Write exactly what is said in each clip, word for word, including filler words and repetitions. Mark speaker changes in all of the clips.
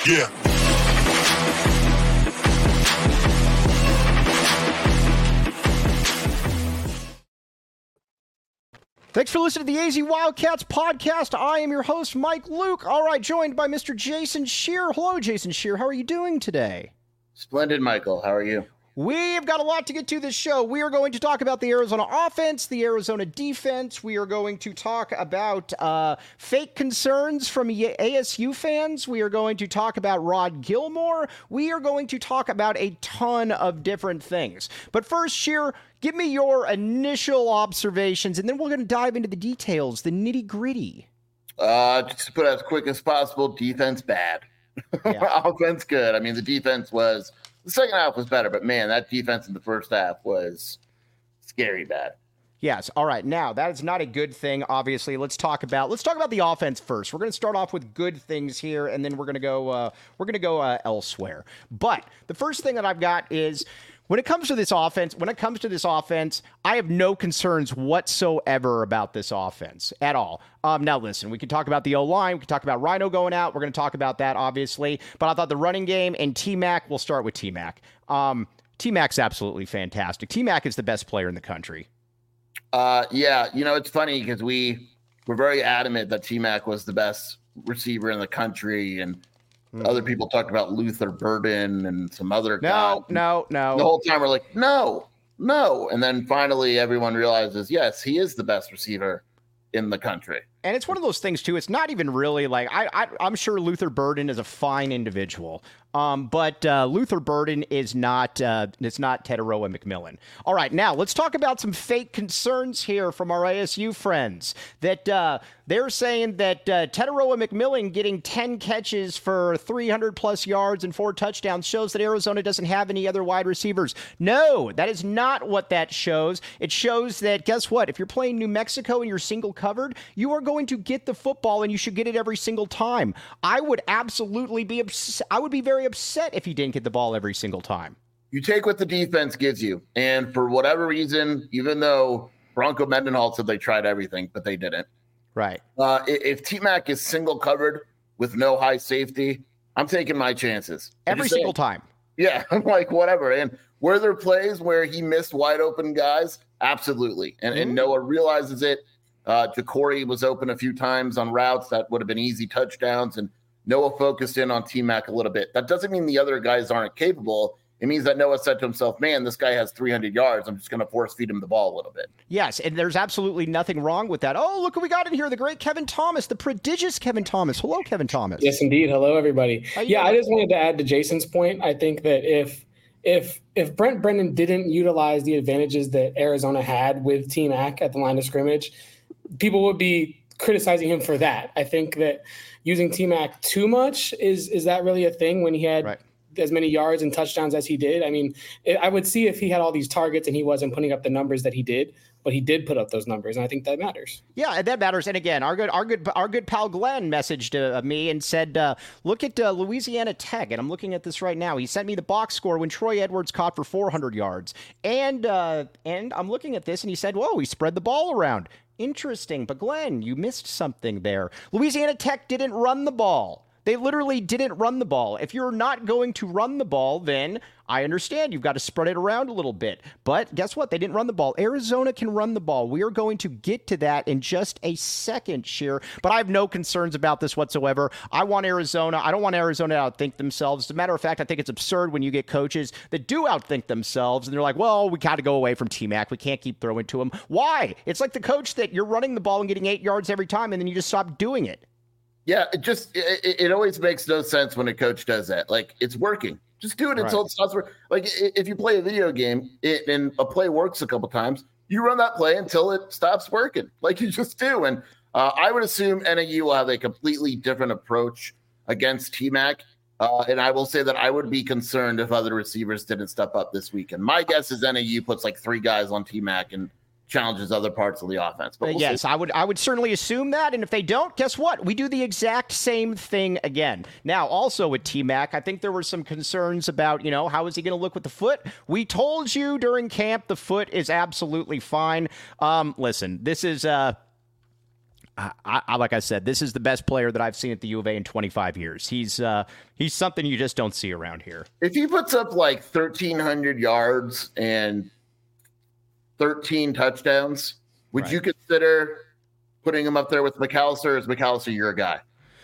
Speaker 1: Yeah.
Speaker 2: Thanks for listening to the A Z Wildcats podcast. I am your host, Mike Luke. All right, joined by Mister Jason Scheer. Hello, Jason Scheer. How are you doing today?
Speaker 3: Splendid, Michael. How are you?
Speaker 2: We've got a lot to get to this show. We are going to talk about the Arizona offense, the Arizona defense. We are going to talk about uh, fake concerns from A S U fans. We are going to talk about Rod Gilmore. We are going to talk about a ton of different things. But first, Scheer, give me your initial observations, and then we're going to dive into the details, the nitty-gritty.
Speaker 3: Uh, just to put it as quick as possible, defense bad. Yeah. Offense good. I mean, the defense was... The second half was better, but, man, that defense in the first half was scary bad.
Speaker 2: Yes. All right. Now, that is not a good thing, obviously. Let's talk about let's talk about the offense first. We're going to start off with good things here, and then we're going to go uh, we're going to go uh, elsewhere. But the first thing that I've got is when it comes to this offense, when it comes to this offense, I have no concerns whatsoever about this offense at all. Um, now, listen, we can talk about the O-line. We can talk about Rhino going out. We're going to talk about that, obviously. But I thought the running game and T-Mac, we'll start with T-Mac. Um, T-Mac's absolutely fantastic. T-Mac is the best player in the country.
Speaker 3: Uh, yeah, you know, it's funny because we were very adamant that T-Mac was the best receiver in the country, and mm. other people talked about Luther Burden and some other
Speaker 2: No,
Speaker 3: guy.
Speaker 2: no, no.
Speaker 3: The whole time we're like, no, no. And then finally everyone realizes, yes, he is the best receiver in the country.
Speaker 2: And it's one of those things, too. It's not even really like I, I, I'm sure Luther Burden is a fine individual, um, but uh, Luther Burden is not uh, it's not Tetaroa McMillan. All right, now let's talk about some fake concerns here from our A S U friends that uh, they're saying that uh, Tetaroa McMillan getting ten catches for three hundred plus yards and four touchdowns shows that Arizona doesn't have any other wide receivers. No, that is not what that shows. It shows that, guess what? If you're playing New Mexico and you're single covered, you are going going to get the football, and you should get it every single time. I would absolutely be ups- I would be very upset if he didn't get the ball every single time.
Speaker 3: You take what the defense gives you, and for whatever reason, even though Bronco Mendenhall said they tried everything, but they didn't.
Speaker 2: Right.
Speaker 3: Uh, if T-Mac is single covered with no high safety, I'm taking my chances.
Speaker 2: Every single saying, time.
Speaker 3: Yeah, I'm like, whatever. And were there plays where he missed wide open guys? Absolutely. And, mm-hmm. and Noah realizes it. Uh, Jacory was open a few times on routes that would have been easy touchdowns, and Noah focused in on T-Mac a little bit. That doesn't mean the other guys aren't capable. It means that Noah said to himself, man, this guy has three hundred yards. I'm just going to force feed him the ball a little bit.
Speaker 2: Yes, and there's absolutely nothing wrong with that. Oh, look what we got in here. The great Kevin Thomas, the prodigious Kevin Thomas. Hello, Kevin Thomas.
Speaker 4: Yes, indeed. Hello, everybody. Yeah, I just wanted to add to Jason's point. I think that if if if Brent Brennan didn't utilize the advantages that Arizona had with T-Mac at the line of scrimmage, people would be criticizing him for that. I think that using T-Mac too much, is is that really a thing when he had right. as many yards and touchdowns as he did? I mean, it, I would see if he had all these targets and he wasn't putting up the numbers that he did, but he did put up those numbers, and I think that matters.
Speaker 2: Yeah, that matters. And again, our good, our good, our good pal Glenn messaged uh, me and said, uh, "Look at uh, Louisiana Tech," and I'm looking at this right now. He sent me the box score when Troy Edwards caught for four hundred yards, and uh, and I'm looking at this, and he said, "Whoa, he spread the ball around." Interesting, but Glenn, you missed something there. Louisiana Tech didn't run the ball. They literally didn't run the ball. If you're not going to run the ball, then I understand you've got to spread it around a little bit. But guess what? They didn't run the ball. Arizona can run the ball. We are going to get to that in just a second, Scheer. But I have no concerns about this whatsoever. I want Arizona. I don't want Arizona to outthink themselves. As a matter of fact, I think it's absurd when you get coaches that do outthink themselves, and they're like, well, we got to go away from T-Mac. We can't keep throwing to him. Why? It's like the coach that you're running the ball and getting eight yards every time, and then you just stop doing it.
Speaker 3: Yeah, it just it, it always makes no sense when a coach does that. Like, it's working. Just do it until right. it stops working. Like, if you play a video game it, and a play works a couple times, you run that play until it stops working. Like you just do. And uh, I would assume N A U will have a completely different approach against T-Mac. Uh, and I will say that I would be concerned if other receivers didn't step up this weekend. My guess is N A U puts like three guys on T-Mac and challenges other parts of the offense. But we'll
Speaker 2: yes,
Speaker 3: see.
Speaker 2: I would I would certainly assume that. And if they don't, guess what? We do the exact same thing again. Now, also with T-Mac, I think there were some concerns about, you know, how is he going to look with the foot? We told you during camp the foot is absolutely fine. Um, listen, this is uh I, I, like I said, this is the best player that I've seen at the U of A in twenty-five years. He's uh, he's something you just don't see around here.
Speaker 3: If he puts up like thirteen hundred yards and thirteen touchdowns, would right. you consider putting him up there with McAllister? Or is McAllister your guy?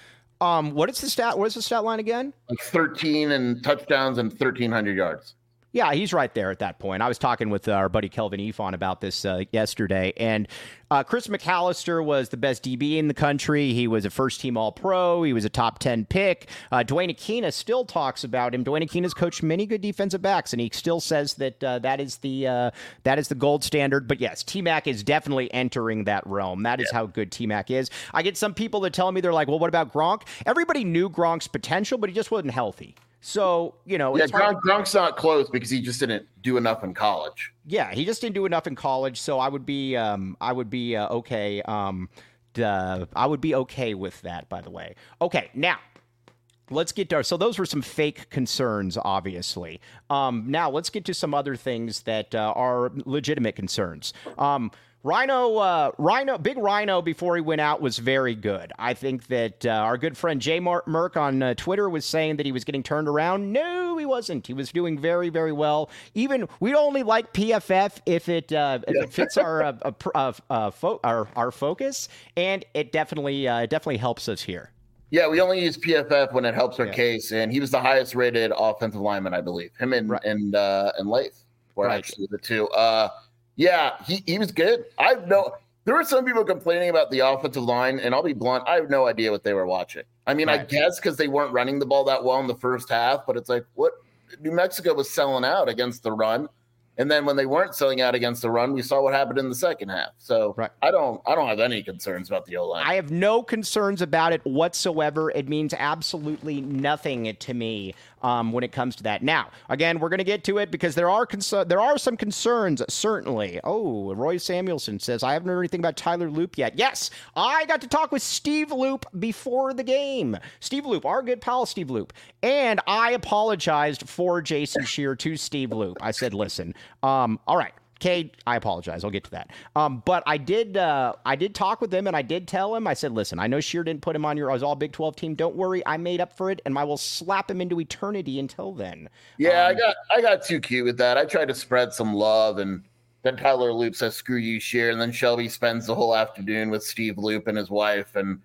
Speaker 2: Um, what is the stat? What is the stat line again?
Speaker 3: Like thirteen and touchdowns and thirteen hundred yards.
Speaker 2: Yeah, he's right there at that point. I was talking with our buddy Kelvin Efon about this uh, yesterday, and uh, Chris McAllister was the best D B in the country. He was a first-team All-Pro. He was a top ten pick. Uh, Dwayne Aquina still talks about him. Dwayne Aquina's coached many good defensive backs, and he still says that uh, that is the uh, that is the gold standard. But yes, T-Mac is definitely entering that realm. That is yeah. how good T-Mac is. I get some people that tell me, they're like, well, what about Gronk? Everybody knew Gronk's potential, but he just wasn't healthy. So, you know,
Speaker 3: yeah, Gronk, Gronk's not close because he just didn't do enough in college.
Speaker 2: Yeah, he just didn't do enough in college. So I would be, um, I would be uh, okay. Um, uh, I would be okay with that. By the way, okay. Now, let's get to our, so those were some fake concerns, obviously. Um, now let's get to some other things that uh, are legitimate concerns. Um, Rhino, uh, Rhino, Big Rhino, before he went out, was very good. I think that uh, our good friend Jay Merck on uh, Twitter was saying that he was getting turned around. No, he wasn't. He was doing very, very well. Even we only like P F F if it uh, if it fits our uh, uh, uh, fo- our our focus, and it definitely uh, definitely helps us here.
Speaker 3: Yeah, we only use P F F when it helps our yeah. case, and he was the highest rated offensive lineman, I believe. Him and right. and uh, and Lath were right. actually the two. Uh, Yeah, he, he was good. I know there were some people complaining about the offensive line, and I'll be blunt, I have no idea what they were watching. I mean, right. I guess because they weren't running the ball that well in the first half, but it's like, what? New Mexico was selling out against the run. And then when they weren't selling out against the run, we saw what happened in the second half. So right. I don't I don't have any concerns about the O-line.
Speaker 2: I have no concerns about it whatsoever. It means absolutely nothing to me um, when it comes to that. Now, again, we're going to get to it because there are cons- there are some concerns, certainly. Oh, Roy Samuelson says, I haven't heard anything about Tyler Loop yet. Yes, I got to talk with Steve Loop before the game. Steve Loop, our good pal Steve Loop. And I apologized for Jason Scheer to Steve Loop. I said, listen, um, all right. Cade, I apologize. I'll get to that. Um, but I did uh, I did talk with him, and I did tell him, I said, listen, I know Scheer didn't put him on your all Big twelve team. Don't worry. I made up for it, and I will slap him into eternity until then.
Speaker 3: Yeah, um, I got I got too cute with that. I tried to spread some love, and then Tyler Loop says, screw you, Scheer. And then Shelby spends the whole afternoon with Steve Loop and his wife, and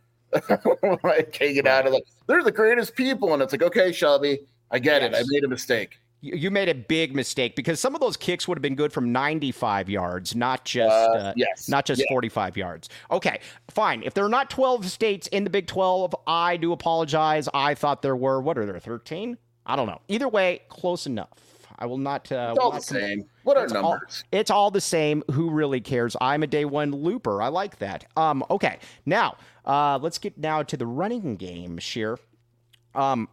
Speaker 3: like, take it out of like, they're the greatest people. And it's like, okay, Shelby, I get yes. it. I made a mistake.
Speaker 2: You made a big mistake because some of those kicks would have been good from ninety-five yards, not just uh, uh,
Speaker 3: yes.
Speaker 2: not just yeah. forty-five yards. Okay, fine. If there are not twelve states in the Big twelve, I do apologize. I thought there were. What are there, thirteen? I don't know. Either way, close enough. I will not. Uh,
Speaker 3: it's all
Speaker 2: not
Speaker 3: the same. What are
Speaker 2: it's
Speaker 3: numbers?
Speaker 2: All, it's all the same. Who really cares? I'm a day one looper. I like that. Um. Okay. Now, uh, let's get now to the running game, Scheer. Um.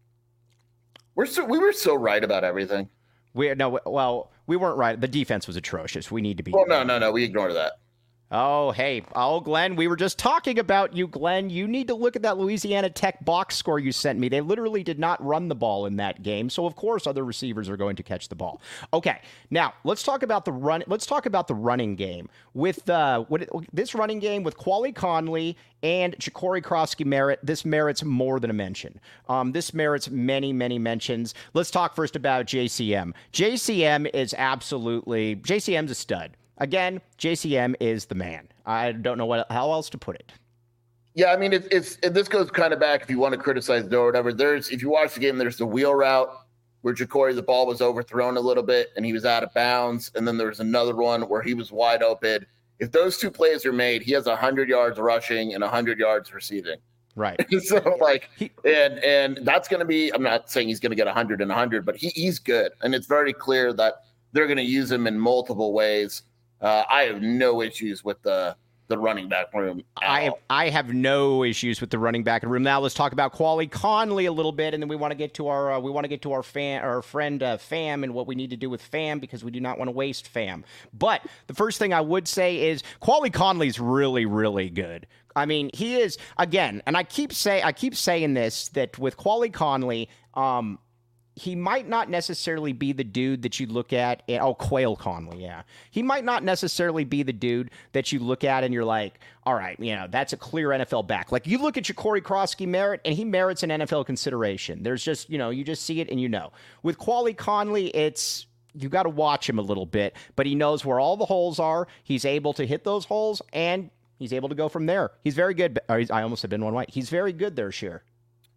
Speaker 3: We're so we were so right about everything.
Speaker 2: We no well we weren't right. The defense was atrocious. We need to be.
Speaker 3: Well, no, no, no. We ignored that.
Speaker 2: Oh, hey, oh, Glenn, we were just talking about you, Glenn. You need to look at that Louisiana Tech box score you sent me. They literally did not run the ball in that game, so of course other receivers are going to catch the ball. Okay, now let's talk about the run. Let's talk about the running game with uh, what it, this running game with Quali Conley and Ja'Cory Krosky merit. This merits more than a mention. Um, this merits many, many mentions. Let's talk first about J C M. J C M is absolutely J C M's a stud. Again, J C M is the man. I don't know what how else to put it.
Speaker 3: Yeah, I mean, it's, it's and this goes kind of back if you want to criticize Doe or whatever. There's if you watch the game, there's the wheel route where Ja'Cory, the ball was overthrown a little bit and he was out of bounds, and then there was another one where he was wide open. If those two plays are made, he has one hundred yards rushing and one hundred yards receiving.
Speaker 2: Right.
Speaker 3: so like, he, and and that's going to be. I'm not saying he's going to get one hundred and one hundred, but he he's good, and it's very clear that they're going to use him in multiple ways. Uh, I have no issues with the the running back room.
Speaker 2: I have, I have no issues with the running back room. Now let's talk about Quali Conley a little bit, and then we want to get to our uh, we want to get to our fan our friend uh, Fam and what we need to do with Fam because we do not want to waste Fam. But the first thing I would say is Quali Conley's really really good. I mean, he is again, and I keep say I keep saying this that with Quali Conley, um, he might not necessarily be the dude that you look at. And, oh, Quail Conley, yeah. He might not necessarily be the dude that you look at and you're like, all right, you know, that's a clear N F L back. Like, you look at Ja'Cory Krosky Merritt, and he merits an N F L consideration. There's just, you know, you just see it and you know. With Quali Conley, it's, you got to watch him a little bit, but he knows where all the holes are. He's able to hit those holes, and he's able to go from there. He's very good. Or he's, I almost have been one white. He's very good there, Sheer.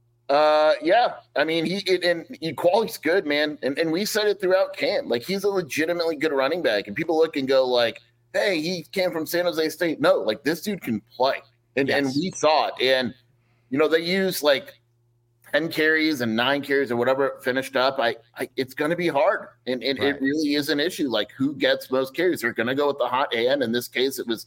Speaker 3: Uh, yeah. I mean, he it, and Equality's good, man. And and we said it throughout camp. Like, he's a legitimately good running back. And people look and go like, hey, he came from San Jose State. No, like, this dude can play. And yes. and we saw it. And, you know, they use like ten carries and nine carries or whatever it finished up. I, I it's going to be hard. And, and right. it really is an issue. Like, who gets most carries? They're going to go with the hot hand. In this case, it was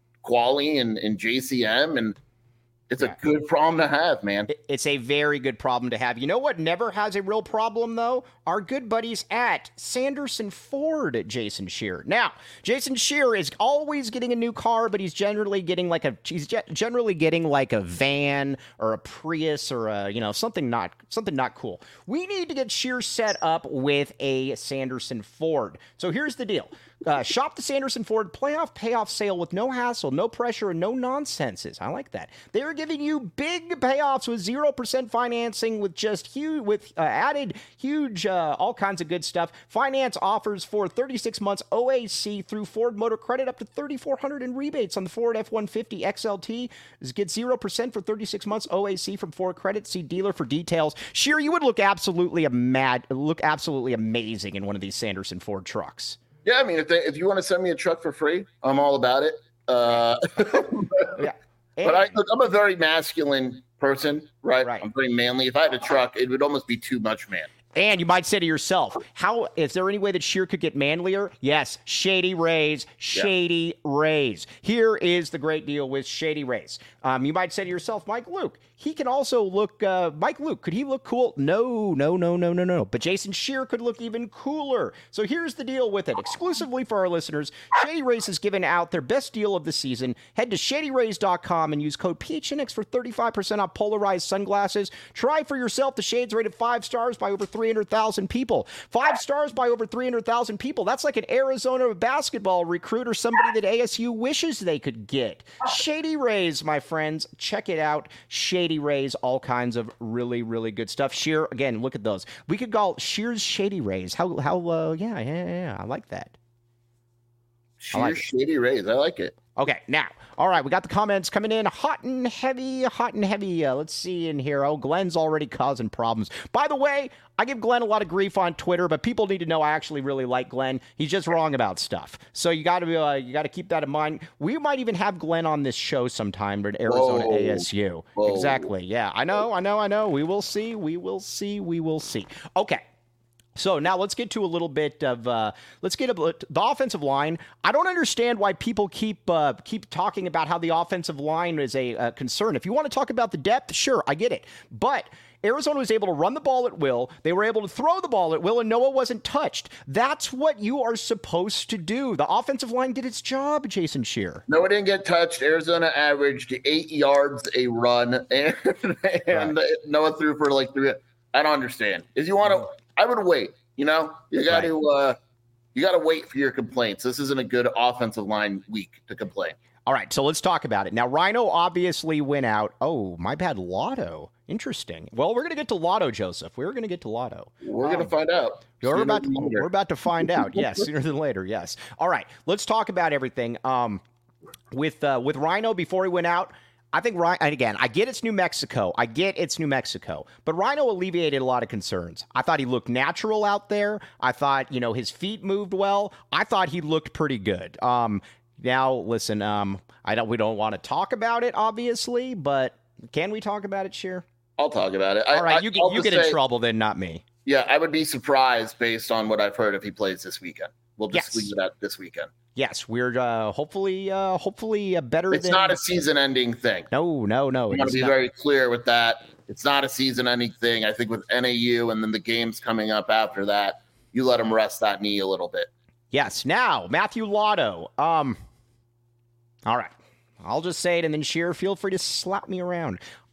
Speaker 3: Quali and, and J C M. And it's a good problem to have, man.
Speaker 2: It's a very good problem to have. You know what never has a real problem, though? Our good buddies at Sanderson Ford, Jason Shear. Now, Jason Shear is always getting a new car, but he's generally getting like a he's generally getting like a van or a Prius or a, you know, something not something not cool. We need to get Shear set up with a Sanderson Ford. So here's the deal. Uh, shop the Sanderson Ford playoff payoff sale with no hassle, no pressure, and no nonsenses. I like that. They are giving you big payoffs with zero percent financing with just huge, with uh, added huge, uh, all kinds of good stuff. Finance offers for thirty-six months O A C through Ford Motor Credit up to three thousand four hundred dollars in rebates on the Ford F one fifty X L T. Get zero percent for thirty-six months O A C from Ford Credit. See dealer for details. Sheer, you would look absolutely a mad, look absolutely amazing in one of these Sanderson Ford trucks.
Speaker 3: Yeah, I mean, if they, if you want to send me a truck for free, I'm all about it. Uh, yeah, but I, look, I'm a very masculine person, right? right? I'm very manly. If I had a truck, it would almost be too much man.
Speaker 2: And you might say to yourself, "How is there any way that Sheer could get manlier?" Yes, Shady Rays, Shady yeah. Rays. Here is the great deal with Shady Rays. Um, you might say to yourself, Mike Luke, he can also look. Uh, Mike Luke, could he look cool? No, no, no, no, no, no. But Jason Sheer could look even cooler. So here's the deal with it. Exclusively for our listeners, Shady Rays has given out their best deal of the season. Head to shady rays dot com and use code P H N X for thirty-five percent off polarized sunglasses. Try for yourself the shades rated five stars by over three hundred thousand people. Five stars by over three hundred thousand people. That's like an Arizona basketball recruit or somebody that A S U wishes they could get. Shady Rays, my friends. Check it out. Shady Rays, all kinds of really, really good stuff. Sheer, again, look at those. We could call Sheer's Shady Rays. How, how, uh, yeah, yeah, yeah, I like that.
Speaker 3: Sheer's like Shady Rays. I like it.
Speaker 2: Okay, now, all right, we got the comments coming in hot and heavy, hot and heavy. Uh, let's see in here. Oh, Glenn's already causing problems. By the way, I give Glenn a lot of grief on Twitter, but people need to know I actually really like Glenn. He's just wrong about stuff. So you got to uh, you got to keep that in mind. We might even have Glenn on this show sometime at Arizona Whoa. A S U. Whoa. Exactly. Yeah, I know, I know, I know. We will see. We will see. We will see. Okay. So now let's get to a little bit of uh, let's get a, the offensive line. I don't understand why people keep uh, keep talking about how the offensive line is a, a concern. If you want to talk about the depth, sure, I get it. But Arizona was able to run the ball at will. They were able to throw the ball at will, and Noah wasn't touched. That's what you are supposed to do. The offensive line did its job, Jason Shear.
Speaker 3: Noah didn't get touched. Arizona averaged eight yards a run, and, and right. Noah threw for like three. I don't understand. If you want to. I would wait, you know, you got to, uh, you got to wait for your complaints. This isn't a good offensive line week to complain.
Speaker 2: All right. So let's talk about it. Now, Rhino obviously went out. Oh, my bad. Lotto. Interesting. Well, we're going to get to Lotto, Joseph. We're going to get to Lotto.
Speaker 3: We're um, going to find out.
Speaker 2: We're about, to, we're about to find out. Yes. Sooner than later. Yes. All right. Let's talk about everything. Um, with, uh, with Rhino before he went out. I think Rhino, and again, I get it's New Mexico. I get it's New Mexico. But Rhino alleviated a lot of concerns. I thought he looked natural out there. I thought, you know, his feet moved well. I thought he looked pretty good. Um, now, listen, um, I don't. we don't want to talk about it, obviously, but can we talk about it, Sheer?
Speaker 3: I'll talk about it.
Speaker 2: All right,
Speaker 3: I,
Speaker 2: you, you get say, in trouble then, not me.
Speaker 3: Yeah, I would be surprised based on what I've heard if he plays this weekend. We'll just
Speaker 2: yes.
Speaker 3: leave it at this weekend.
Speaker 2: Yes, we're uh, hopefully, uh, hopefully uh, better.
Speaker 3: It's
Speaker 2: than...
Speaker 3: not a season-ending thing.
Speaker 2: No, no, no.
Speaker 3: I'm going to be not... very clear with that. It's not a season-ending thing. I think with N A U and then the games coming up after that, you let him rest that knee a little bit.
Speaker 2: Yes. Now, Matthew Lotto. Um. All right, I'll just say it, and then Sheer, feel free to slap me around.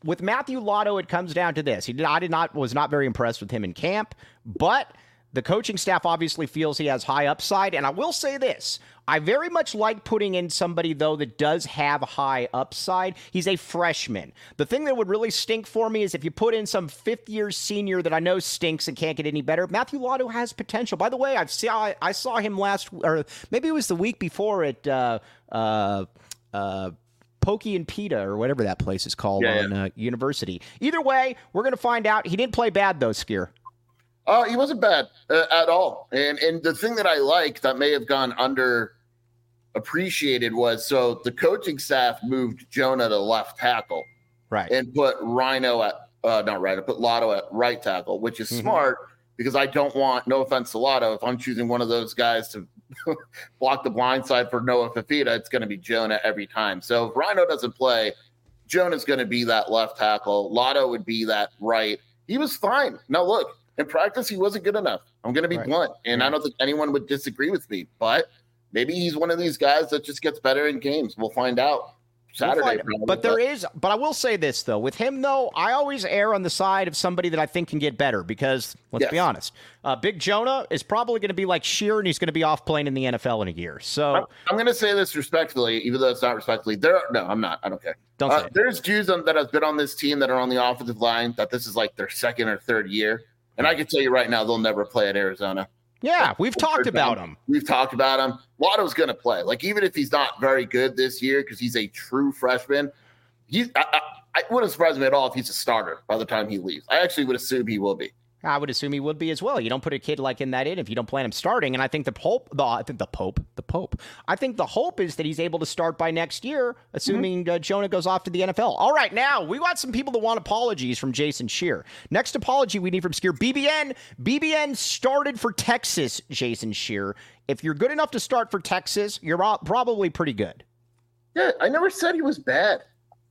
Speaker 2: with Matthew Lotto, it comes down to this. He did, I did not was not very impressed with him in camp, but the coaching staff obviously feels he has high upside. And I will say this. I very much like putting in somebody, though, that does have high upside. He's a freshman. The thing that would really stink for me is if you put in some fifth-year senior that I know stinks and can't get any better. Matthew Lotto has potential. By the way, I've saw, I saw him last, or maybe it was the week before at uh, uh, uh, Pokey and Pita, or whatever that place is called yeah, on yeah. Uh, University. Either way, we're going to find out. He didn't play bad, though, Skier.
Speaker 3: Oh, uh, he wasn't bad uh, at all. And and the thing that I like that may have gone under appreciated was, so the coaching staff moved Jonah to left tackle.
Speaker 2: Right.
Speaker 3: And put Rhino at, uh, not Rhino, put Lotto at right tackle, which is mm-hmm. smart because I don't want, no offense to Lotto, if I'm choosing one of those guys to block the blind side for Noah Fafita, it's going to be Jonah every time. So if Rhino doesn't play, Jonah's going to be that left tackle. Lotto would be that right. He was fine. Now, look. In practice, he wasn't good enough. I'm going to be right. blunt, and yeah. I don't think anyone would disagree with me. But maybe he's one of these guys that just gets better in games. We'll find out Saturday. We'll find,
Speaker 2: but there is, but I will say this though, with him though, I always err on the side of somebody that I think can get better because let's yes. be honest, uh, Big Jonah is probably going to be like Shear, and he's going to be off playing in the N F L in a year. So
Speaker 3: I'm, I'm going to say this respectfully, even though it's not respectfully. There, are, no, I'm not. I don't care.
Speaker 2: Don't
Speaker 3: uh,
Speaker 2: say it.
Speaker 3: There's Jews on, that have been on this team that are on the offensive line that this is like their second or third year. And I can tell you right now, they'll never play at Arizona.
Speaker 2: Yeah, we've talked about him.
Speaker 3: We've talked about him. Lotto's going to play. Like, even if he's not very good this year because he's a true freshman, he's, I, I, I wouldn't surprise me at all if he's a starter by the time he leaves. I actually would assume he will be.
Speaker 2: I would assume he would be as well. You don't put a kid like in that in if you don't plan him starting. And I think the Pope, the I think the Pope, the Pope. I think the hope is that he's able to start by next year, assuming mm-hmm. uh, Jonah goes off to the N F L. All right, now we got some people that want apologies from Jason Shear. Next apology we need from Skier. B B N, B B N started for Texas. Jason Shear. If you're good enough to start for Texas, you're probably pretty good.
Speaker 3: Yeah, I never said he was bad.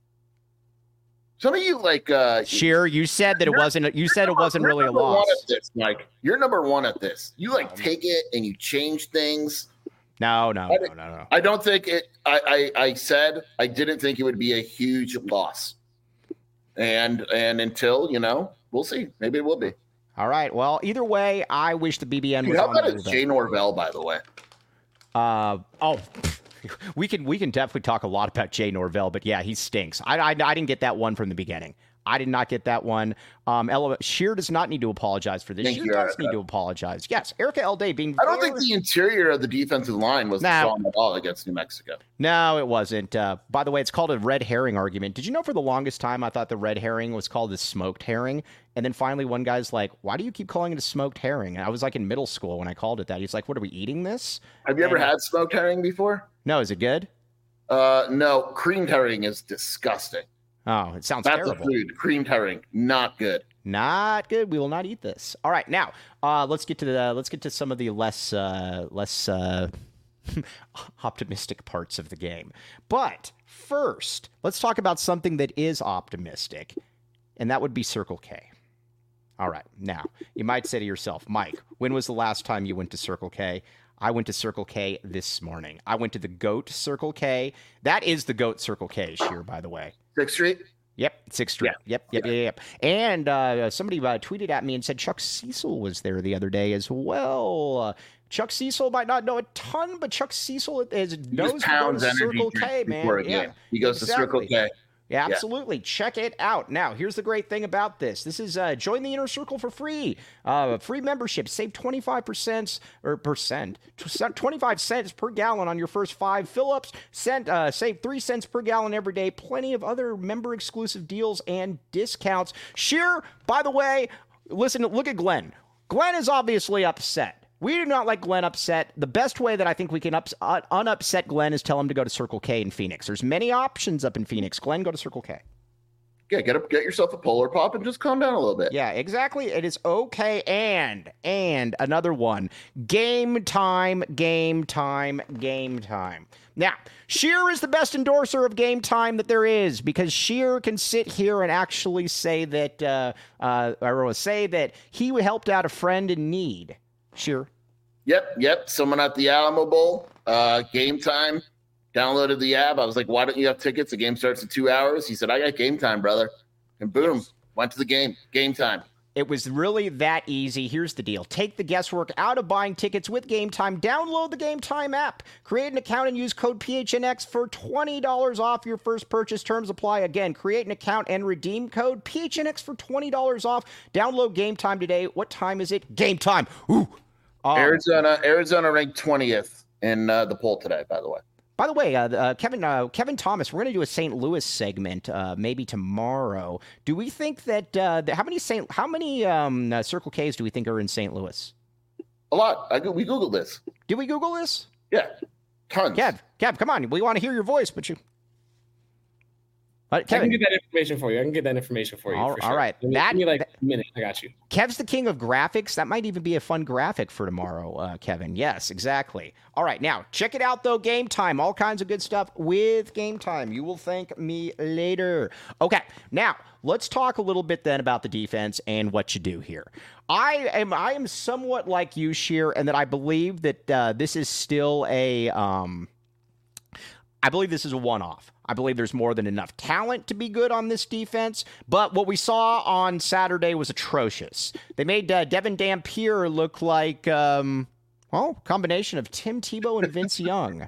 Speaker 3: Some of you like uh
Speaker 2: Shear, you said that it wasn't you said it wasn't really a loss.
Speaker 3: One at this, Mike. You're number one at this. You like take it and you change things.
Speaker 2: No, no, no, no, no.
Speaker 3: I don't think it I, I I said I didn't think it would be a huge loss. And and until, you know, we'll see. Maybe it will be.
Speaker 2: All right. Well, either way, I wish the B B N was
Speaker 3: Dude, how
Speaker 2: on
Speaker 3: about it's Jay Norvell, by the way?
Speaker 2: Uh oh. We can we can definitely talk a lot about Jay Norvell, but yeah, he stinks. I, I, I didn't get that one from the beginning. I did not get that one. Um, Ella, Shear does not need to apologize for this. Thank Shear you, does Erica. need to apologize. Yes, Erica L. Day being.
Speaker 3: I don't very... think the interior of the defensive line was
Speaker 2: nah.
Speaker 3: strong at all against New Mexico.
Speaker 2: No, it wasn't. Uh, by the way, it's called a red herring argument. Did you know for the longest time I thought the red herring was called the smoked herring? And then finally one guy's like, why do you keep calling it a smoked herring? And I was like in middle school when I called it that. He's like, what are we eating this?
Speaker 3: Have you
Speaker 2: and,
Speaker 3: ever had smoked herring before?
Speaker 2: No, is it good?
Speaker 3: Uh, no, creamed herring is disgusting.
Speaker 2: Oh, it sounds
Speaker 3: That's
Speaker 2: terrible.
Speaker 3: That's a food. Creamed herring, not good.
Speaker 2: Not good. We will not eat this. All right, now uh, let's get to the let's get to some of the less uh, less uh, optimistic parts of the game. But first, let's talk about something that is optimistic, and that would be Circle K. All right, now you might say to yourself, Mike, when was the last time you went to Circle K? I went to Circle K this morning. I went to the GOAT Circle K. That is the GOAT Circle K, Shear, by the way.
Speaker 3: Sixth Street?
Speaker 2: Yep, Sixth Street. Yeah. Yep, yep, yeah. yep, yep. And uh, somebody uh, tweeted at me and said Chuck Cecil was there the other day as well. Uh, Chuck Cecil might not know a ton, but Chuck Cecil is, knows about Circle K, man. Yeah,
Speaker 3: he goes exactly. to Circle K.
Speaker 2: Yeah, absolutely. Yeah. Check it out. Now, here's the great thing about this. This is uh, join the Inner Circle for free. Uh, free membership. Save twenty-five percent or percent, twenty-five cents per gallon on your first five fill-ups. Cent, uh, save three cents per gallon every day. Plenty of other member-exclusive deals and discounts. Shear, by the way, listen, look at Glenn. Glenn is obviously upset. We do not like Glenn upset. The best way that I think we can ups, uh, unupset Glenn is tell him to go to Circle K in Phoenix. There's many options up in Phoenix. Glenn, go to Circle K.
Speaker 3: Yeah, get up, get yourself a Polar Pop and just calm down a little bit.
Speaker 2: Yeah, exactly. It is okay. And, and another one. Game time, game time, game time. Now, Shear is the best endorser of Game Time that there is because Shear can sit here and actually say that, uh, uh, or say that he helped out a friend in need. Sure.
Speaker 3: Yep, yep. Someone at the Alamo Bowl, uh, Game Time, downloaded the app. I was like, why don't you have tickets? The game starts in two hours. He said, I got Game Time, brother. and boom, yes. went to the game. Game time.
Speaker 2: It was really that easy. Here's the deal. Take the guesswork out of buying tickets with Game Time. Download the Game Time app. Create an account and use code P H N X for twenty dollars off your first purchase. Terms apply. Again, create an account and redeem code P H N X for twenty dollars off. Download Game Time today. What time is it? Game Time. Ooh.
Speaker 3: Um, Arizona, Arizona ranked twentieth in uh, the poll today, by the way.
Speaker 2: By the way, uh, uh, Kevin uh, Kevin Thomas, we're going to do a Saint Louis segment uh, maybe tomorrow. Do we think that, uh, that how many Saint how many um, uh, Circle K's do we think are in Saint Louis?
Speaker 3: A lot. I we Googled this.
Speaker 2: Did we Google this?
Speaker 3: Yeah, tons.
Speaker 2: Kev, Kev, come on. We want to hear your voice, but you.
Speaker 4: But Kevin, I can get that information for you. I can get that information for you.
Speaker 2: All,
Speaker 4: for
Speaker 2: all
Speaker 4: sure.
Speaker 2: right.
Speaker 4: Give me,
Speaker 2: that,
Speaker 4: give me like
Speaker 2: that,
Speaker 4: a minute. I got you.
Speaker 2: Kev's the king of graphics. That might even be a fun graphic for tomorrow, uh, Kevin. Yes, exactly. All right. Now, check it out, though. Game Time. All kinds of good stuff with Game Time. You will thank me later. Okay. Now, let's talk a little bit then about the defense and what you do here. I am I am somewhat like you, Sheer, and that I believe that uh, this is still a um, I believe this is a one-off. I believe there's more than enough talent to be good on this defense, but what we saw on Saturday was atrocious. They made uh, Devin Dampier look like, um, well, combination of Tim Tebow and Vince Young.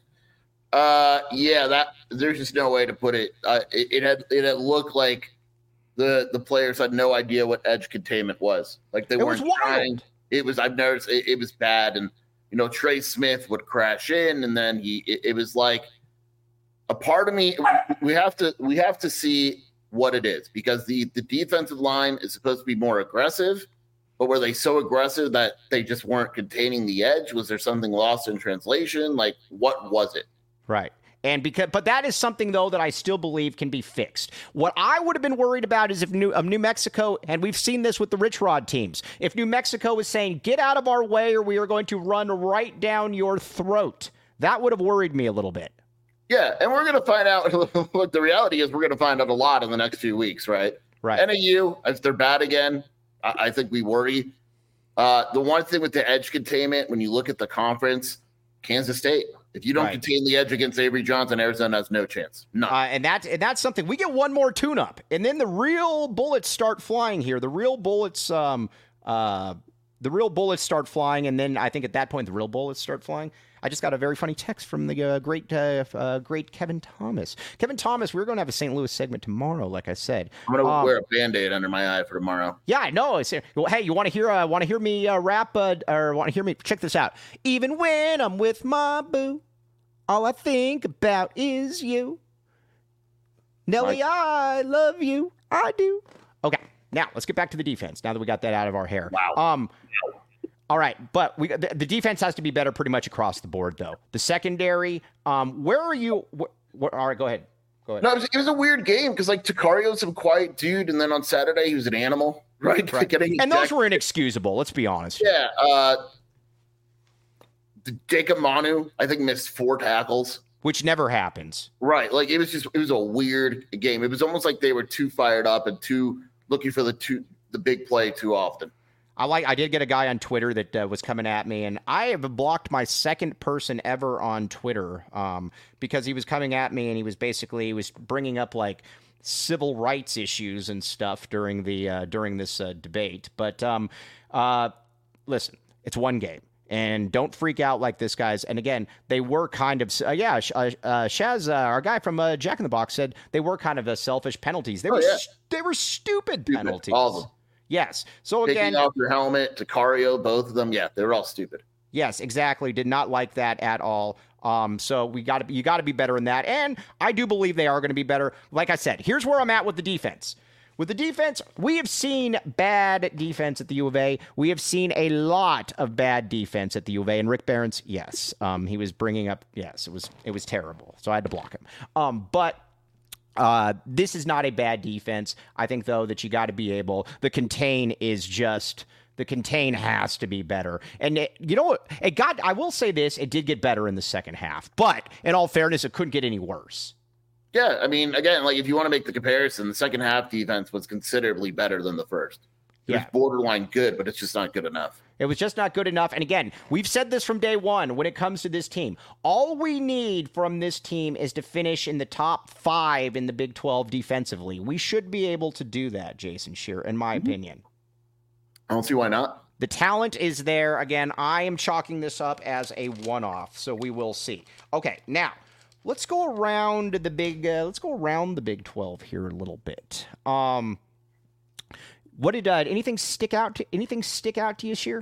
Speaker 3: Uh, yeah, that there's just no way to put it. Uh, it, it had it had looked like the the players had no idea what edge containment was. Like they
Speaker 2: it
Speaker 3: weren't
Speaker 2: was
Speaker 3: trying. It was I've noticed it, it was bad, and you know Trey Smith would crash in, and then he it, it was like. A part of me, we have to we have to see what it is because the, the defensive line is supposed to be more aggressive, but were they so aggressive that they just weren't containing the edge? Was there something lost in translation? Like, what was it?
Speaker 2: Right. And because, but that is something though that I still believe can be fixed. What I would have been worried about is if New, um, New Mexico, and we've seen this with the Rich Rod teams, if New Mexico was saying, "Get out of our way, or we are going to run right down your throat," that would have worried me a little bit.
Speaker 3: Yeah, and we're going to find out what the reality is. We're going to find out a lot in the next few weeks, right?
Speaker 2: Right.
Speaker 3: N A U, if they're bad again, I, I think we worry. Uh, the one thing with the edge containment, when you look at the conference, Kansas State, if you don't right. contain the edge against Avery Johnson, Arizona has no chance. No.
Speaker 2: Uh, and, that, and that's something. We get one more tune-up, and then the real bullets start flying here. The real bullets um, uh, the real bullets start flying, and then I think at that point the real bullets start flying. I just got a very funny text from the uh, great, uh, uh, great Kevin Thomas. Kevin Thomas, we're going to have a Saint Louis segment tomorrow, like I said.
Speaker 3: I'm going to
Speaker 2: um,
Speaker 3: wear a Band-Aid under my eye for tomorrow.
Speaker 2: Yeah, I know. It's, well, hey, you want to hear? Uh, want to hear me uh, rap? Uh, or want to hear me? Check this out. Even when I'm with my boo, all I think about is you. Nelly, I love you. I do. Okay, now let's get back to the defense. Now that we got that out of our hair.
Speaker 3: Wow.
Speaker 2: Um. All right, but we, the, the defense has to be better pretty much across the board, though. The secondary, um, where are you? Wh- wh- all right, go ahead. Go ahead.
Speaker 3: No, it was, it was a weird game because, like, Tacario's a quiet dude, and then on Saturday he was an animal, right?
Speaker 2: right. And those were inexcusable, let's be honest.
Speaker 3: Yeah. Uh, Jacob Manu, I think, missed four tackles.
Speaker 2: Which never happens.
Speaker 3: Right. Like, it was just, it was a weird game. It was almost like they were too fired up and too looking for the two, the big play too often.
Speaker 2: I like. I did get a guy on Twitter that uh, was coming at me, and I have blocked my second person ever on Twitter um, because he was coming at me, and he was basically he was bringing up like civil rights issues and stuff during the uh, during this uh, debate. But um, uh, listen, it's one game, and don't freak out like this, guys. And again, they were kind of uh, yeah. Uh, uh, Shaz, uh, our guy from uh, Jack in the Box, said they were kind of uh, selfish penalties. They
Speaker 3: oh,
Speaker 2: were
Speaker 3: yeah.
Speaker 2: they were stupid,
Speaker 3: stupid
Speaker 2: penalties.
Speaker 3: All of them.
Speaker 2: Yes. So again,
Speaker 3: taking off your helmet, Tacario, both of them, yeah, they were all stupid.
Speaker 2: Yes, exactly. Did not like that at all. Um, so we got to you got to be better in that, and I do believe they are going to be better. Like I said, here's where I'm at with the defense. With the defense, we have seen bad defense at the U of A. We have seen a lot of bad defense at the U of A. And Rick Barnes, yes, um, he was bringing up. Yes, it was it was terrible. So I had to block him. Um, but. Uh, this is not a bad defense. I think, though, that you got to be able. The contain is just the contain has to be better. And it, you know what? It got. I will say this: it did get better in the second half. But in all fairness, it couldn't get any worse.
Speaker 3: Yeah, I mean, again, like if you want to make the comparison, the second half defense was considerably better than the first. It
Speaker 2: yeah.
Speaker 3: was borderline good, but it's just not good enough.
Speaker 2: It was just not good enough. And again, we've said this from day one when it comes to this team. All we need from this team is to finish in the top five in the Big twelve defensively. We should be able to do that, Jason Scheer, in my mm-hmm. opinion.
Speaker 3: I don't see why not.
Speaker 2: The talent is there. Again, I am chalking this up as a one-off, so we will see. Okay, now let's go around the big. Uh, let's go around the Big twelve here a little bit. Um, what did uh, anything stick out? To, anything stick out to you, Scheer?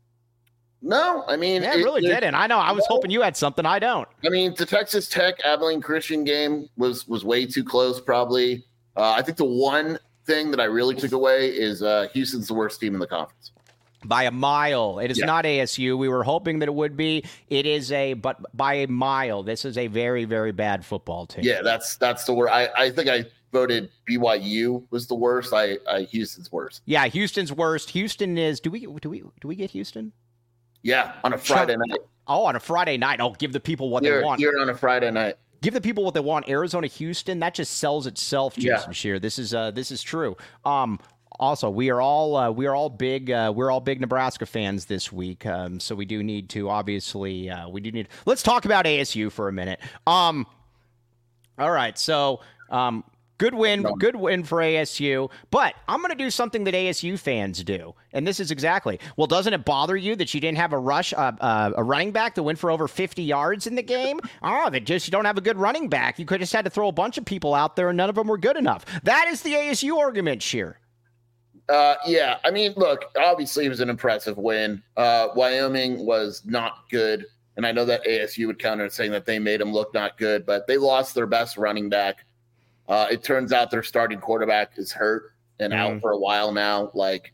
Speaker 3: No, I mean,
Speaker 2: yeah, it, it really it, didn't. I know. I was no, hoping you had something. I don't.
Speaker 3: I mean, the Texas Tech Abilene Christian game was was way too close. Probably. Uh, I think the one thing that I really took away is uh, Houston's the worst team in the conference.
Speaker 2: By a mile. It is
Speaker 3: yeah.
Speaker 2: not A S U. We were hoping that it would be. It is a, but by a mile. This is a very, very bad football team.
Speaker 3: Yeah, that's that's the worst. I, I think I voted B Y U was the worst. I, I Houston's worst.
Speaker 2: Yeah, Houston's worst. Houston is. Do we do we do we get Houston?
Speaker 3: Yeah, on a Friday night.
Speaker 2: Oh, on a Friday night. Oh, give the people what
Speaker 3: you're,
Speaker 2: they want.
Speaker 3: You're on a Friday night.
Speaker 2: Give the people what they want. Arizona, Houston. That just sells itself, Jason
Speaker 3: yeah.
Speaker 2: Scheer. This is uh, this is true. Um. Also, we are all uh, we are all big uh, we're all big Nebraska fans this week, um, so we do need to obviously uh, we do need. Let's talk about A S U for a minute. Um, all right, so um, good win, no. good win for A S U. But I'm going to do something that A S U fans do, and this is exactly. Well, doesn't it bother you that you didn't have a rush uh, uh, a running back that went for over fifty yards in the game? Oh, that just you don't have a good running back. You could just had to throw a bunch of people out there, and none of them were good enough. That is the A S U argument, Scheer.
Speaker 3: Uh, yeah, I mean, look, obviously it was an impressive win. Uh, Wyoming was not good, and I know that A S U would counter saying that they made them look not good, but they lost their best running back. Uh, it turns out their starting quarterback is hurt and mm. out for a while now. Like,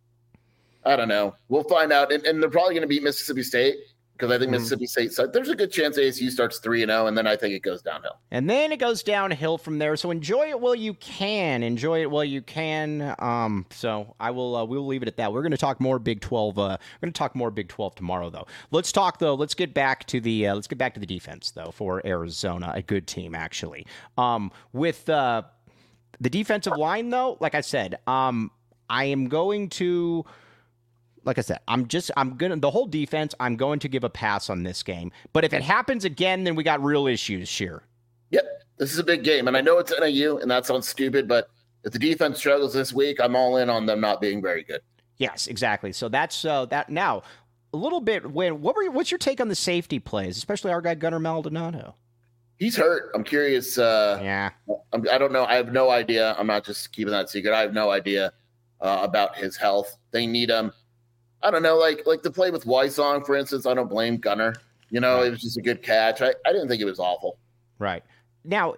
Speaker 3: I don't know. We'll find out, and, and they're probably going to beat Mississippi State because I think mm. Mississippi State. So there's a good chance A S U starts three and zero, and then I think it goes downhill.
Speaker 2: And then it goes downhill from there. So enjoy it while you can. Enjoy it while you can. Um, so I will. Uh, we'll leave it at that. We're going to talk more Big twelve. Uh, we're going to talk more Big twelve tomorrow, though. Let's talk though. Let's get back to the. Uh, let's get back to the defense though for Arizona. A good team actually. Um, with uh, the defensive line though, like I said, um, I am going to. Like I said, I'm just, I'm going to, the whole defense, I'm going to give a pass on this game. But if it happens again, then we got real issues, Scheer.
Speaker 3: Yep. This is a big game. And I know it's N A U, and that sounds stupid, but if the defense struggles this week, I'm all in on them not being very good.
Speaker 2: Yes, exactly. So that's uh, that. Now, a little bit, when, what were you, what's your take on the safety plays, especially our guy Gunnar Maldonado?
Speaker 3: He's hurt. I'm curious. Uh,
Speaker 2: yeah.
Speaker 3: I'm, I don't know. I have no idea. I'm not just keeping that secret. I have no idea uh, about his health. They need him. I don't know, like like the play with Wysong, for instance, I don't blame Gunnar. You know, right. It was just a good catch. I, I didn't think it was awful.
Speaker 2: Right. Now,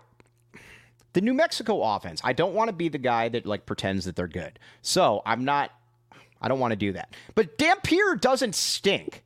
Speaker 2: the New Mexico offense, I don't want to be the guy that, like, pretends that they're good. So I'm not – I don't want to do that. But Dampier doesn't stink.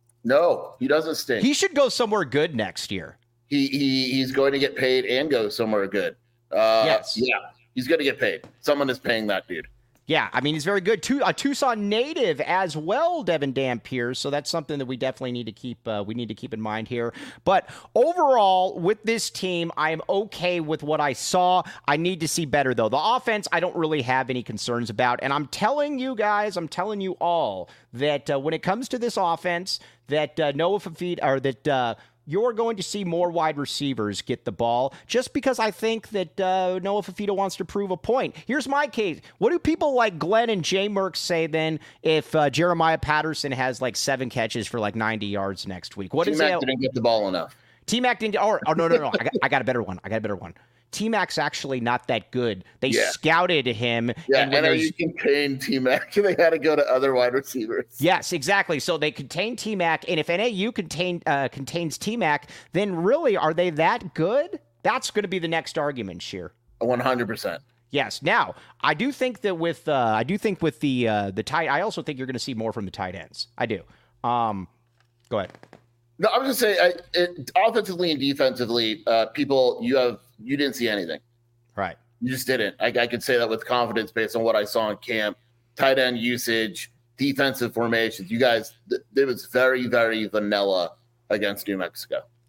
Speaker 3: No, he doesn't stink.
Speaker 2: He should go somewhere good next year.
Speaker 3: He, he He's going to get paid and go somewhere good. Uh,
Speaker 2: yes.
Speaker 3: Yeah, he's going to get paid. Someone is paying that dude.
Speaker 2: Yeah, I mean, he's very good. A Tucson native as well, Devin Dampier. So that's something that we definitely need to keep uh, we need to keep in mind here. But overall, with this team, I am okay with what I saw. I need to see better, though. The offense, I don't really have any concerns about. And I'm telling you guys, I'm telling you all that uh, when it comes to this offense, that uh, Noah Fafita, or that uh, you're going to see more wide receivers get the ball, just because I think that uh, Noah Fafita wants to prove a point. Here's my case. What do people like Glenn and Jay Merck say then if uh, Jeremiah Patterson has like seven catches for like ninety yards next week? What is
Speaker 3: it? T-Mac didn't get the ball enough.
Speaker 2: T-Mac didn't. Oh, oh no, no, no. I got, I got a better one. I got a better one. T-Mac's actually not that good. They yeah. scouted him.
Speaker 3: Yeah, and N A U contained T-Mac. They had to go to other wide receivers.
Speaker 2: Yes, exactly. So they contain T-Mac, and if N A U contain, uh, contains T-Mac, then really, are they that good? That's going to be the next argument, Scheer.
Speaker 3: one hundred percent.
Speaker 2: Yes. Now, I do think that with uh, I do think with the uh, the tight, I also think you're going to see more from the tight ends. I do. Um, go ahead.
Speaker 3: No, I was just saying, I, it, offensively and defensively, uh, people, you have you didn't see anything.
Speaker 2: Right.
Speaker 3: You just didn't. I, I could say that with confidence based on what I saw in camp. Tight end usage, defensive formations. You guys, th- it was very, very vanilla against New Mexico.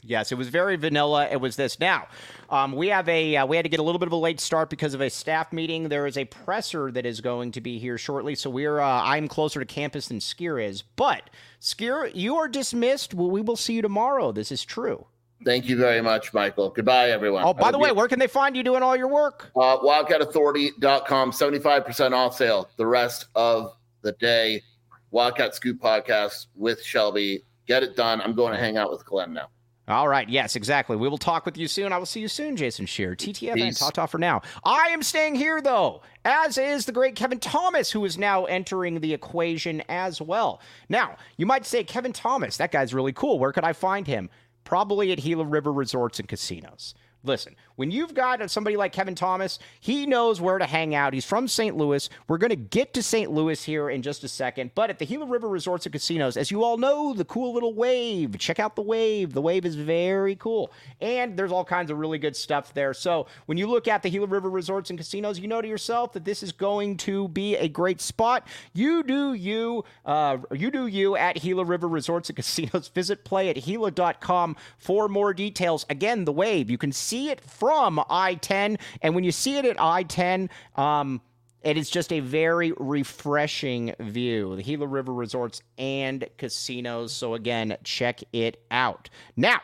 Speaker 2: Yes, it was very vanilla. It was this. Now, um, we have a uh, we had to get a little bit of a late start because of a staff meeting. There is a presser that is going to be here shortly, so we're uh, I'm closer to campus than Skier is. But Skier, you are dismissed. Well, we will see you tomorrow. This is true.
Speaker 3: Thank you very much, Michael. Goodbye, everyone.
Speaker 2: Oh, by the way, where can they find you doing all your work?
Speaker 3: Uh, wildcat authority dot com, seventy-five percent off sale the rest of the day. Wildcat Scoop podcast with Shelby. Get it done. I'm going to hang out with Glenn now.
Speaker 2: All right. Yes, exactly. We will talk with you soon. I will see you soon, Jason Scheer. T T F N, ta-ta for now. I am staying here, though, as is the great Kevin Thomas, who is now entering the equation as well. Now, you might say, Kevin Thomas, that guy's really cool. Where could I find him? Probably at Gila River Resorts and Casinos. Listen, when you've got somebody like Kevin Thomas, he knows where to hang out. He's from Saint Louis. We're going to get to Saint Louis here in just a second. But at the Gila River Resorts and Casinos, as you all know, the cool little Wave. Check out the Wave. The Wave is very cool. And there's all kinds of really good stuff there. So when you look at the Gila River Resorts and Casinos, you know to yourself that this is going to be a great spot. You do you. Uh, you do you at Gila River Resorts and Casinos. Visit play at gila dot com for more details. Again, the Wave. You can see See it from I ten, and when you see it at I ten, um, it is just a very refreshing view. The Gila River Resorts and Casinos. So again, check it out. Now,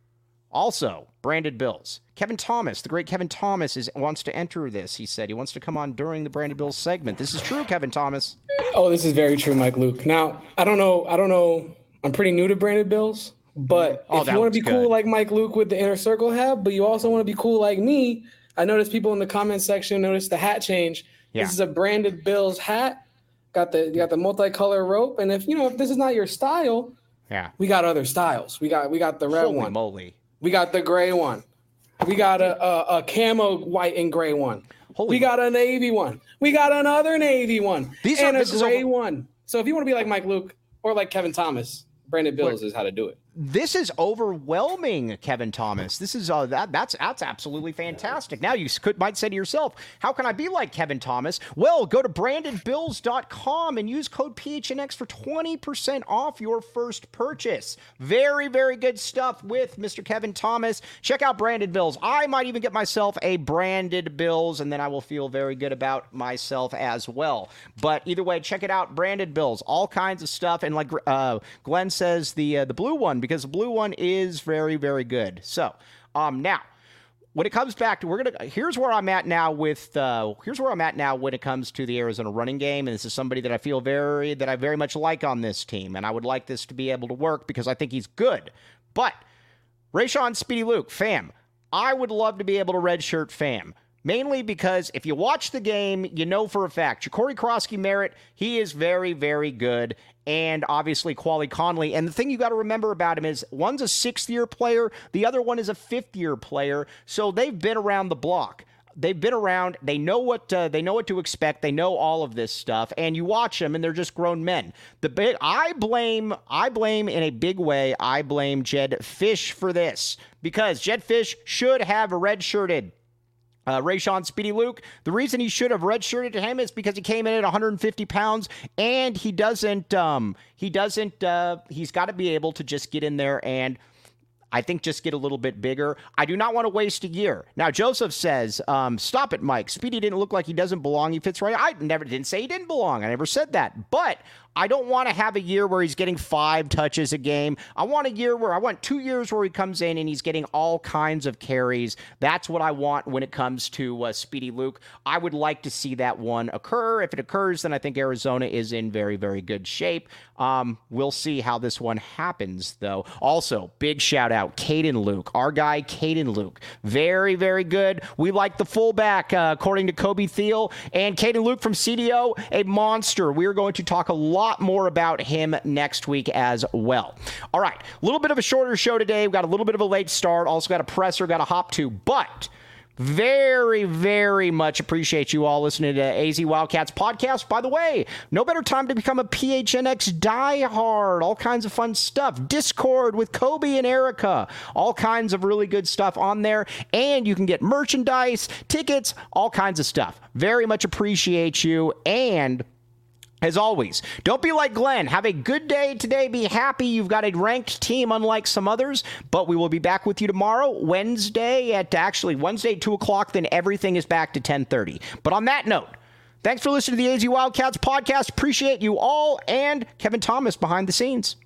Speaker 2: also, Branded Bills. Kevin Thomas, the great Kevin Thomas, is wants to enter this. He said he wants to come on during the Branded Bills segment. This is true, Kevin Thomas.
Speaker 4: Oh, this is very true, Mike Luke. Now, I don't know. I don't know. I'm pretty new to Branded Bills. But oh, if you want to be cool good. like Mike Luke with the Inner Circle hat, but you also want to be cool like me, I noticed people in the comment section noticed the hat change. Yeah. This is a Branded Bills hat. Got the you got the multicolor rope, and if you know if this is not your style,
Speaker 2: yeah,
Speaker 4: we got other styles. We got we got the red
Speaker 2: Holy
Speaker 4: one.
Speaker 2: Moly.
Speaker 4: We got the gray one. We got a a, a camo white and gray one.
Speaker 2: Holy
Speaker 4: we got a navy one. We got another navy one.
Speaker 2: These
Speaker 4: and
Speaker 2: are,
Speaker 4: a gray
Speaker 2: over-
Speaker 4: one. So if you want to be like Mike Luke or like Kevin Thomas, Branded Bills Wait. is how to do it.
Speaker 2: This is overwhelming, Kevin Thomas. This is uh, that that's that's absolutely fantastic. Now you could might say to yourself, how can I be like Kevin Thomas? Well, go to branded bills dot com and use code P H N X for twenty percent off your first purchase. Very, very good stuff with Mister Kevin Thomas. Check out Branded Bills. I might even get myself a Branded Bills, and then I will feel very good about myself as well. But either way, check it out, Branded Bills. All kinds of stuff. And like uh, Glenn says, the uh, the blue one, because the blue one is very, very good. So, um, now, when it comes back to, we're going to, here's where I'm at now with, uh, here's where I'm at now when it comes to the Arizona running game. And this is somebody that I feel very, that I very much like on this team. And I would like this to be able to work because I think he's good. But, Rayshon Speedy Luke, fam, I would love to be able to redshirt fam. Mainly because if you watch the game, you know for a fact, Ja'Cory Krosky-Merritt, he is very, very good. And obviously, Quali Conley. And the thing you got to remember about him is one's a sixth-year player, the other one is a fifth-year player. So they've been around the block. They've been around. They know what uh, they know what to expect. They know all of this stuff. And you watch them, and they're just grown men. The big, I blame, I blame in a big way. I blame Jedd Fisch for this because Jedd Fisch should have redshirted Uh, Rayshon Speedy Luke. The reason he should have redshirted to him is because he came in at one hundred fifty pounds, and he doesn't, um, he doesn't, uh, he's got to be able to just get in there and I think just get a little bit bigger. I do not want to waste a year. Now, Joseph says, um, stop it, Mike. Speedy didn't look like he doesn't belong. He fits right. I never didn't say he didn't belong. I never said that. But I don't want to have a year where he's getting five touches a game. I want a year where I want two years where he comes in and he's getting all kinds of carries. That's what I want when it comes to uh, Speedy Luke. I would like to see that one occur. If it occurs, then I think Arizona is in very, very good shape. Um, we'll see how this one happens, though. Also, big shout out, Caden Luke, our guy, Caden Luke. Very, very good. We like the fullback, uh, according to Kobe Thiel. And Caden Luke from C D O, a monster. We are going to talk a lot more about him next week as well. All right, a little bit of a shorter show today. We've got a little bit of a late start. Also got a presser, got a hop to, but very, very much appreciate you all listening to A Z Wildcats podcast. By the way, no better time to become a P H N X diehard. All kinds of fun stuff. Discord with Kobe and Erica. All kinds of really good stuff on there. And you can get merchandise, tickets, all kinds of stuff. Very much appreciate you. And As always, don't be like Glenn. Have a good day today. Be happy you've got a ranked team unlike some others. But we will be back with you tomorrow, Wednesday at actually Wednesday at two o'clock. Then everything is back to ten thirty. But on that note, thanks for listening to the A Z Wildcats podcast. Appreciate you all, and Kevin Thomas behind the scenes.